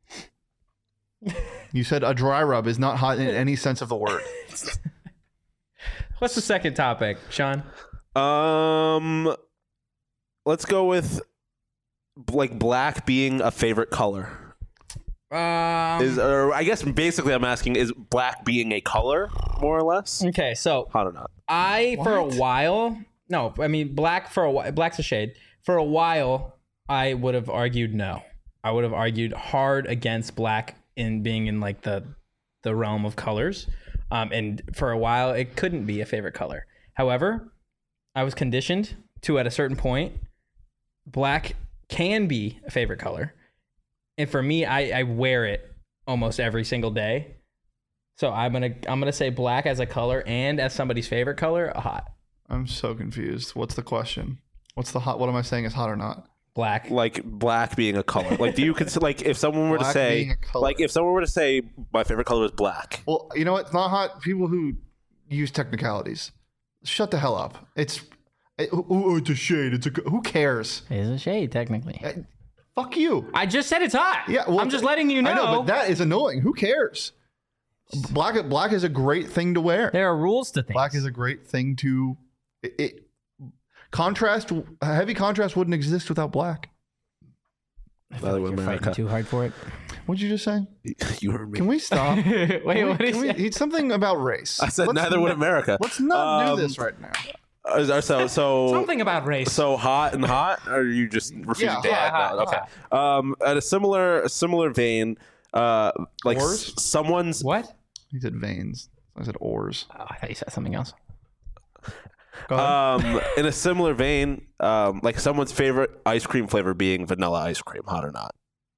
B: You said a dry rub is not hot in any sense of the word.
A: What's the second topic, Sean?
C: Um, let's go with like black being a favorite color.
A: Um,
C: Is or I guess basically I'm asking, is black being a color more or less?
A: okay, so
C: Hot or not?
A: I for a
B: What?
A: while, no, I mean black for a while. Black's a shade. For a while, I would have argued no. I would have argued hard against black in being in like the the realm of colors. Um, and for a while, it couldn't be a favorite color. However, I was conditioned to at a certain point, black can be a favorite color. And for me, I, I wear it almost every single day. So I'm gonna I'm gonna say black as a color and as somebody's favorite color, hot.
B: I'm so confused. What's the question? What's the hot? What am I saying is hot or not?
A: Black.
C: Like black being a color. Like, do you consider like if someone were to
B: Black
C: say
B: being a color.
C: like if someone were to say my favorite color is black?
B: Well, you know what? It's not hot. People who use technicalities, shut the hell up. It's it, oh, oh, it's a shade. It's a who cares?
A: It is a shade, technically.
B: Eh, Fuck you.
A: I just said it's hot.
B: Yeah, well,
A: I'm just letting you know.
B: I know, but that is annoying. Who cares? Black black is a great thing to wear.
A: there are rules to things.
B: Black is a great thing to it, it contrast. Heavy contrast wouldn't exist without black.
C: By the way,
A: You're fighting
C: America.
A: too hard for it.
B: What'd you just say?
C: You heard me.
B: Can we stop?
A: Wait,
B: Can we-
A: what is
B: can we-
A: it?
B: It's something about race.
C: I said
B: Let's
C: neither would
B: not-
C: America.
B: Let's not
C: Um,
B: do this right now.
C: Uh, So so
A: Something about race.
C: so hot and hot, or are you just refusing
B: Yeah,
C: to
A: hot,
C: add
A: hot,
C: that? Okay. Um, at a similar a similar vein, uh, like
B: Oars?
C: s- someone's
A: what?
B: He said veins. I said oars.
A: Oh, I thought you said something else.
B: Go ahead.
C: um in a similar vein, um, like someone's favorite ice cream flavor being vanilla ice cream, hot or not?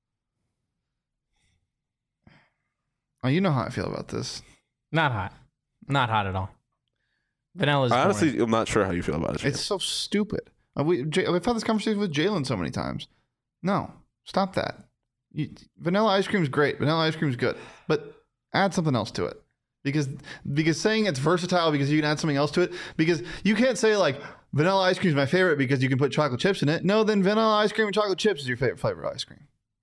B: Oh, you know how I feel about this.
A: Not hot. Not hot at all. Vanilla's
C: I
A: boring.
C: honestly, I'm not sure how you feel about it.
B: It's so stupid. Uh, We, J- I've had this conversation with Jalen so many times. No, stop that. You, vanilla ice cream is great. Vanilla ice cream is good, but add something else to it. Because because saying it's versatile because you can add something else to it. Because you can't say like vanilla ice cream is my favorite because you can put chocolate chips in it. No, then vanilla ice cream and chocolate chips is your favorite flavor of ice cream.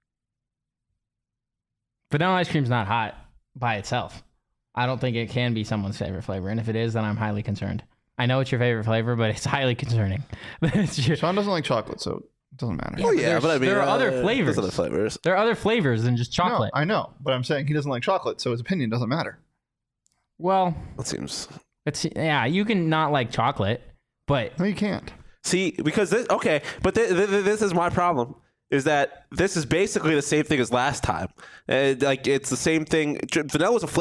A: Vanilla ice cream's not hot by itself. I don't think it can be someone's favorite flavor. And if it is, then I'm highly concerned. I know it's your favorite flavor, but it's highly concerning. It's your-
B: Sean doesn't like chocolate, so it doesn't matter.
A: Yeah, but
C: yeah,
A: there's-
C: but I mean,
A: there are other
C: uh,
A: flavors.
C: There's other flavors.
A: there are other flavors than just chocolate.
B: No, I know, but I'm saying he doesn't like chocolate, so his opinion doesn't matter.
A: Well,
C: That seems.
A: it's yeah, you can not like chocolate, but
B: No, you can't.
C: See, because this, okay, but th- th- th- this is my problem. Is that this is basically the same thing as last time? Uh, like it's the same thing. J- Vanilla is a flavor.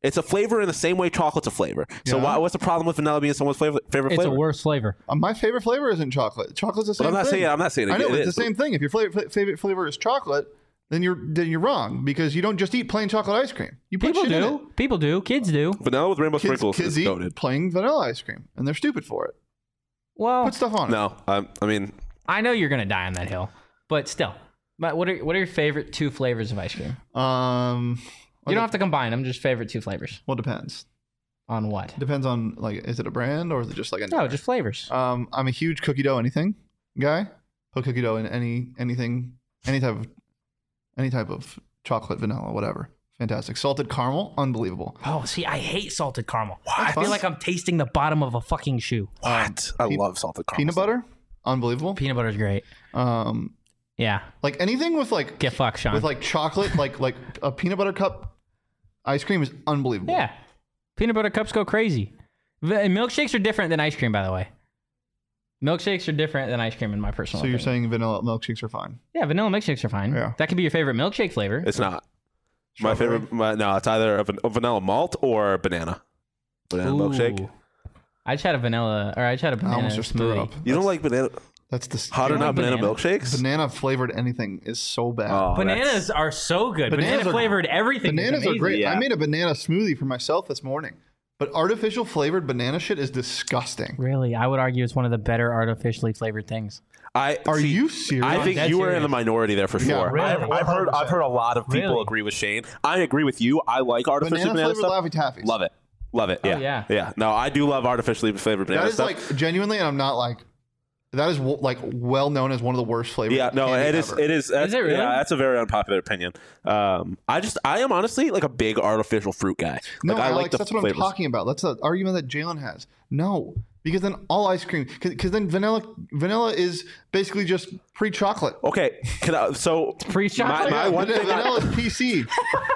C: It's a flavor in the same way chocolate's a flavor. So
B: Yeah.
C: why, what's the problem with vanilla being someone's flavor, favorite
A: It's
C: flavor?
A: a worse flavor.
B: Uh, my favorite flavor isn't chocolate. Chocolate's the same
C: But I'm not
B: thing.
C: saying I'm not saying it,
B: I know
C: it
B: it's
C: is.
B: the same thing. If your flavor, favorite flavor is chocolate, then you're then you're wrong because you don't just eat plain chocolate ice cream. You put
A: People
B: shit in it.
A: do. People do. Kids do.
C: Vanilla with rainbow
B: Kids,
C: sprinkles
B: kids
C: is
B: eat
C: goated.
B: plain vanilla ice cream, and they're stupid for it.
A: Well,
B: Put stuff on it.
C: No, um, I mean,
A: I know you're gonna die on that hill, but still. But what are what are your favorite two flavors of ice cream?
B: Um,
A: You don't have to combine them. Just favorite two flavors.
B: Well, depends.
A: On what?
B: Depends on like, is it a brand or is it just like a?
A: No, just flavors.
B: Um, I'm a huge cookie dough anything guy. Put cookie dough in any anything, any type of, any type of chocolate, vanilla, whatever. Fantastic. Salted caramel, unbelievable.
A: Oh, see, I hate salted caramel. I
B: fun.
A: feel like I'm tasting the bottom of a fucking shoe.
C: what? I
B: pe-
C: love salted caramel.
B: Peanut butter, unbelievable.
A: Peanut butter's great.
B: Um,
A: Yeah.
B: like anything with like
A: Get fucked, Sean.
B: with like chocolate, like like a peanut butter cup ice cream is unbelievable.
A: yeah. Peanut butter cups go crazy. V- Milkshakes are different than ice cream, by the way. Milkshakes are different than ice cream in my personal
B: So you're
A: opinion.
B: saying vanilla milkshakes are fine?
A: Yeah, vanilla milkshakes are fine.
B: Yeah.
A: That could be your favorite milkshake flavor.
C: It's not. My
B: Strawberry?
C: favorite. My, no, it's either a, van- a vanilla malt or banana. Banana milkshake.
A: Ooh. I just had a vanilla, or I just had a
B: I
A: banana
B: almost just threw
A: smoothie.
B: up.
C: You don't like banana?
B: That's the
C: Hot or
A: You
C: not
A: like
C: banana,
A: banana?
C: milkshakes?
B: banana flavored anything is so bad.
C: Oh,
A: Bananas are so good.
B: Bananas
A: Banana
B: are-
A: flavored everything. is
B: Bananas are
A: amazing.
B: great.
C: Yeah.
B: I made a banana smoothie for myself this morning, but artificial flavored banana shit is disgusting.
A: Really, I would argue it's one of the better artificially flavored things.
C: I
B: Are
C: see,
B: you serious?
C: I think
A: dead
C: you were in
A: serious.
C: the minority there for
B: Yeah,
C: sure.
B: really?
C: I've, I've heard. I've heard a lot of people
A: Really?
C: agree with Shane. I agree with you. I like artificially
B: banana
C: banana,
B: flavored
C: stuff.
B: Laffy Taffies.
C: Love it. Love it. Yeah.
A: yeah.
C: Yeah. No, I do love artificially flavored banana
B: That is
C: stuff.
B: like genuinely, and I'm not like that is w- like well known as one of the worst flavors.
C: Yeah, no,
B: candy
C: it is.
B: ever.
C: It is. That's,
A: it really?
C: Yeah, that's a very unpopular opinion. Um, I just, I am honestly like a big artificial fruit guy.
B: No,
C: like, I
B: Alex,
C: like the
B: that's what
C: flavors.
B: I'm talking about. That's the argument that Jalen has. No, because then all ice cream, because then vanilla, vanilla is basically just pre-chocolate.
C: Okay, can I, so
A: pre-chocolate?
C: My, my one
B: vanilla,
C: thing. I-
B: vanilla is P C.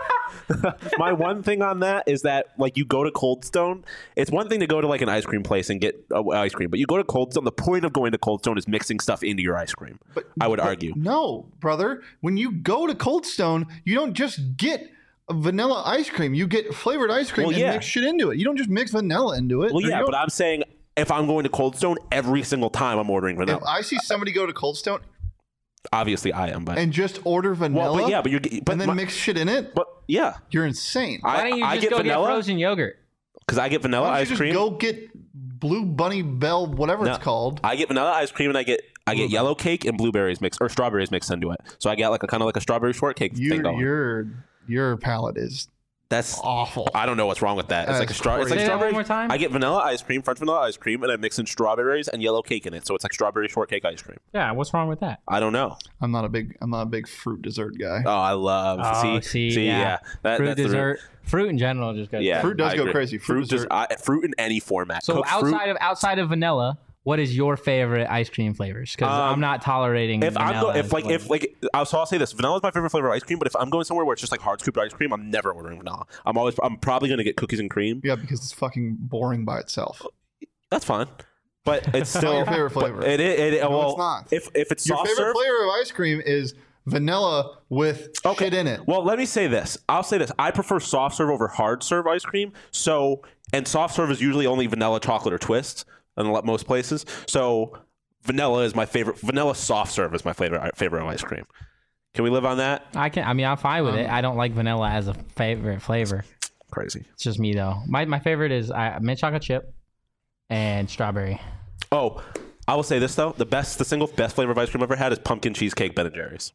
C: my one thing on that is that like you go to Cold Stone, it's one thing to go to like an ice cream place and get uh, ice cream, but you go to Cold Stone. The point of going to Cold Stone is mixing stuff into your ice cream.
B: But
C: I would
B: but
C: argue.
B: No, brother. When you go to Cold Stone, you don't just get vanilla ice cream. You get flavored ice cream
C: Well,
B: and
C: yeah.
B: mix shit into it. You don't just mix vanilla into it.
C: Well,
B: Or you
C: yeah,
B: don't-
C: but I'm saying if I'm going to Cold Stone every single time, I'm ordering
B: if
C: vanilla.
B: I see somebody go to Cold Stone
C: Obviously, I am, but
B: and just order vanilla,
C: well, but yeah, but you're but
B: and then
C: my-
B: mix shit in it,
C: but yeah,
B: you're insane.
A: Why
C: I,
A: don't you
C: I
A: just
C: get
A: go
C: vanilla
A: get frozen yogurt?
C: because I get vanilla
B: Why don't you
C: ice
B: just
C: cream.
B: go get Blue Bunny Bell, whatever
C: No,
B: it's called.
C: I get vanilla ice cream and I get I get yellow cake and blueberries mixed or strawberries mixed into it. So I get like a kind of like a strawberry shortcake thing
B: Your
C: going.
B: your your palate is
C: That's
B: awful.
C: I don't know what's wrong with that. It's
B: That's
C: like a straw. It's like
B: crazy.
A: Say that
C: strawberry.
A: one more time?
C: I get vanilla ice cream, French vanilla ice cream, and I mix in strawberries and yellow cake in it. So it's like strawberry shortcake ice cream.
A: Yeah, what's wrong with that?
C: I don't know.
B: I'm not a big I'm not a big fruit dessert guy.
C: Oh, I love.
A: Oh,
C: see,
A: see,
C: yeah.
A: yeah.
C: That,
A: Fruit
C: that's the-
A: dessert, fruit in general just goes.
C: yeah,
B: Fruit does
C: I
B: go
C: agree.
B: crazy. Fruit
C: Fruit, just
B: dessert-
C: I, fruit in any format.
A: So
C: Cooked
A: outside
C: fruit,
A: of outside of vanilla, what is your favorite ice cream flavors? Because
C: Um,
A: I'm not tolerating.
C: if I'm
A: vanilla
C: go, if
A: as
C: like
A: well.
C: if like I'll, so I'll say this: vanilla is my favorite flavor of ice cream. But if I'm going somewhere where it's just like hard scooped ice cream, I'm never ordering vanilla. I'm always I'm probably going to get cookies and cream.
B: Yeah, because it's fucking boring by itself.
C: That's fine, but it's
B: not
C: still
B: your favorite
C: but
B: flavor.
C: It is. It, it,
B: No,
C: well,
B: it's not.
C: If if it's
B: Your
C: soft
B: favorite
C: serve,
B: flavor of ice cream is vanilla with shit in it.
C: Well, let me say this. I'll say this. I prefer soft serve over hard serve ice cream. So, and soft serve is usually only vanilla, chocolate, or twist in a lot- most places. So, vanilla is my favorite. Vanilla soft serve is my favorite favorite of ice cream. Can we live on that?
A: I can. I mean, I'm fine with
B: Um,
A: it. I don't like vanilla as a favorite flavor.
C: Crazy.
A: It's just me though. My my favorite is uh, mint chocolate chip and strawberry.
C: Oh, I will say this though. The best, the single best flavor of ice cream I've ever had is pumpkin cheesecake Ben and Jerry's.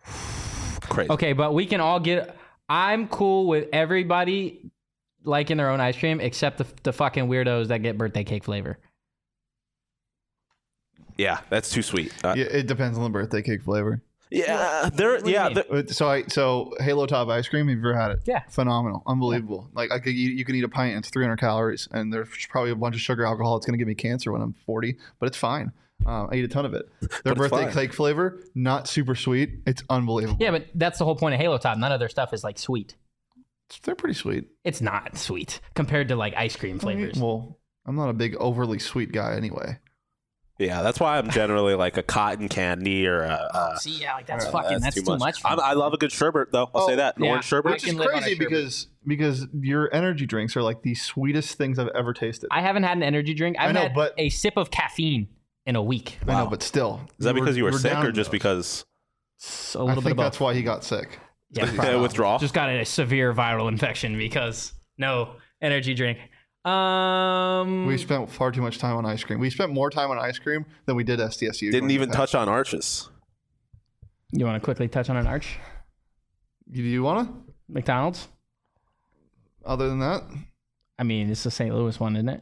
C: Crazy.
A: Okay, but we can all get. I'm cool with everybody liking their own ice cream except the the fucking weirdos that get birthday cake flavor.
C: Yeah, that's too sweet. Uh,
B: Yeah, it depends on the birthday cake flavor.
C: yeah, there.
A: do you
C: Yeah,
A: mean?
C: there-
B: Uh, So I so Halo Top ice cream. Have you ever had it?
A: Yeah.
B: phenomenal, unbelievable. Like I could, you, you can eat a pint and it's three hundred calories, and there's probably a bunch of sugar alcohol. It's going to give me cancer when I'm forty, but it's fine. Uh, I eat a ton of it. Their
C: But it's
B: birthday
C: fine.
B: cake flavor, not super sweet. It's unbelievable.
A: Yeah, but that's the whole point of Halo Top. None of their stuff is like sweet.
B: They're pretty sweet.
A: It's not sweet compared to like ice cream flavors.
B: Well, I'm not a big overly sweet guy anyway.
C: Yeah, that's why I'm generally like a cotton candy or a. a
A: See, yeah, like that's fucking that's,
C: too
A: too
C: much.
A: much. for
C: I'm,
A: me.
C: I love a good sherbet though. I'll
B: Oh,
C: say that. An
A: yeah.
C: orange sherbet.
A: I
B: Which is
A: can live on a
B: crazy
A: sherbet.
B: because because your energy drinks are like the sweetest things I've ever tasted.
A: I haven't had an energy drink. I've
B: I know,
A: had
B: but-
A: a sip of caffeine in a week.
B: I know, but still.
C: Is that
B: were-
C: because you were,
B: were
C: sick
B: down
C: or just
B: those.
C: because
A: So a
B: I
A: little bit
B: think
A: of both.
B: that's why he got sick.
A: Yeah,
C: uh,
A: probably.
C: withdrawal?
A: Just got a severe viral infection because no energy drink. Um,
B: We spent far too much time on ice cream. We spent more time on ice cream than we did S D S U.
C: Didn't
B: during
C: even
B: the past.
C: touch on arches.
A: you want to quickly touch on an arch?
B: Do you want to?
A: McDonald's.
B: Other than that,
A: I mean, it's the Saint Louis one, isn't it?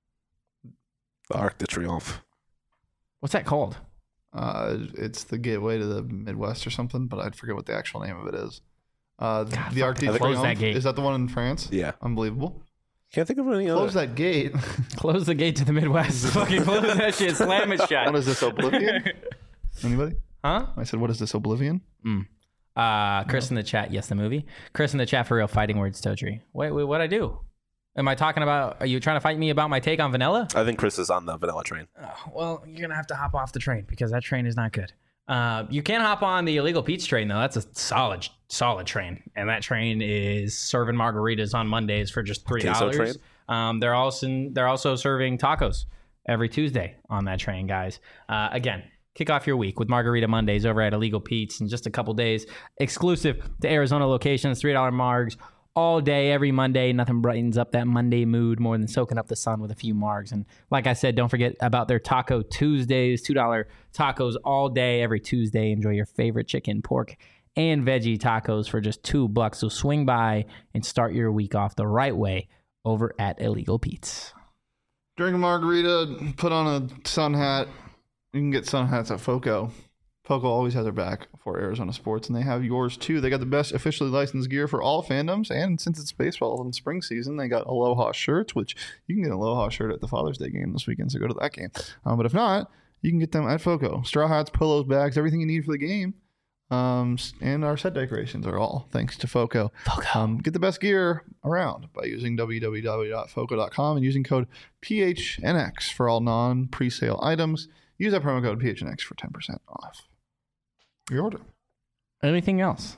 C: The Arc de Triomphe.
A: What's that called?
B: uh, it's the gateway to the Midwest or something, but I forget what the actual name of it is. Uh, the Arc de
A: close
B: Triomphe.
A: that gate.
B: Is that the one in France?
C: Yeah.
B: Unbelievable.
C: Can't think of any other.
B: Close that gate.
A: Close the gate to the Midwest. Fucking close that shit. Slam it shut.
B: What is this, Oblivion? Anybody?
A: Huh?
B: I said, what is this, Oblivion?
A: Uh, Chris in the chat. Yes, the movie. Chris in the chat for real. Fighting words, Totri. Wait, wait, what'd I do? Am I talking about? Are you trying to fight me about my take on vanilla?
C: I think Chris is on the vanilla train.
A: Oh, well, you're gonna have to hop off the train because that train is not good. Uh, you can hop on the illegal Pete's train though. That's a solid, solid train, and that train is serving margaritas on Mondays for just three
C: Queso train?
A: dollars. Um, they're also they're also serving tacos every Tuesday on that train, guys. Uh, again, kick off your week with Margarita Mondays over at Illegal Pete's in just a couple days, exclusive to Arizona locations. Three dollar margs all day, every Monday. Nothing brightens up that Monday mood more than soaking up the sun with a few margs. And like I said, don't forget about their Taco Tuesdays, two dollar tacos all day, every Tuesday. Enjoy your favorite chicken, pork, and veggie tacos for just two bucks. So swing by and start your week off the right way over at Illegal Pete's.
B: Drink a margarita, put on a sun hat. You can get sun hats at FOCO. FOCO always has their back for Arizona sports, and they have yours too. They got the best officially licensed gear for all fandoms, and since it's baseball and spring season, they got Aloha shirts, which you can get an Aloha shirt at the Father's Day game this weekend, so go to that game. Um, but if not, you can get them at FOCO. Straw hats, pillows, bags, everything you need for the game. Um, and our set decorations are all thanks to FOCO.
A: FOCO.
B: Um, get the best gear around by using w w w dot foco dot com and using code P H N X for all non-presale items. Use that promo code P H N X for ten percent off your order.
A: Anything else?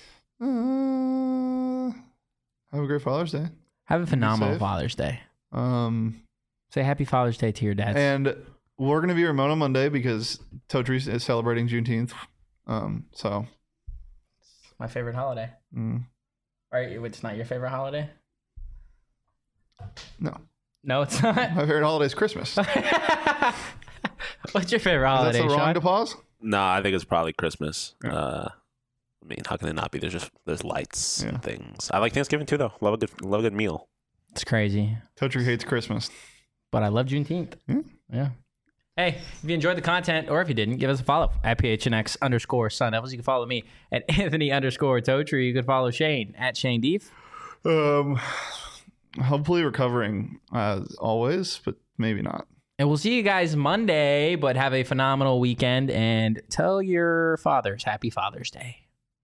B: Uh, have a great Father's Day.
A: Have a phenomenal
B: safe.
A: Father's Day.
B: Um,
A: Say Happy Father's Day to your dads.
B: and we're going to be remote on Monday because Totri is celebrating Juneteenth. Um, so,
A: My favorite holiday.
B: mm,
A: Right? It's not your favorite holiday?
B: no.
A: No, it's not.
B: My favorite holiday is Christmas. Is
A: What's your favorite
B: that
A: holiday,
B: so wrong
A: Sean?
B: to pause?
C: No, I think it's probably Christmas. Uh, I mean, how can it not be? There's just there's lights
B: Yeah.
C: and things. I like Thanksgiving too, though. Love a good love a good meal.
A: It's crazy.
B: Totri hates Christmas.
A: But I love Juneteenth.
B: Hmm?
A: Yeah. Hey, if you enjoyed the content, or if you didn't, give us a follow at P H N X underscore Sun Devils. You can follow me at Anthony underscore Totri. You can follow Shane at Shane Deef.
B: Um, hopefully recovering as always, but maybe not.
A: And we'll see you guys Monday, but have a phenomenal weekend and tell your fathers Happy Father's Day.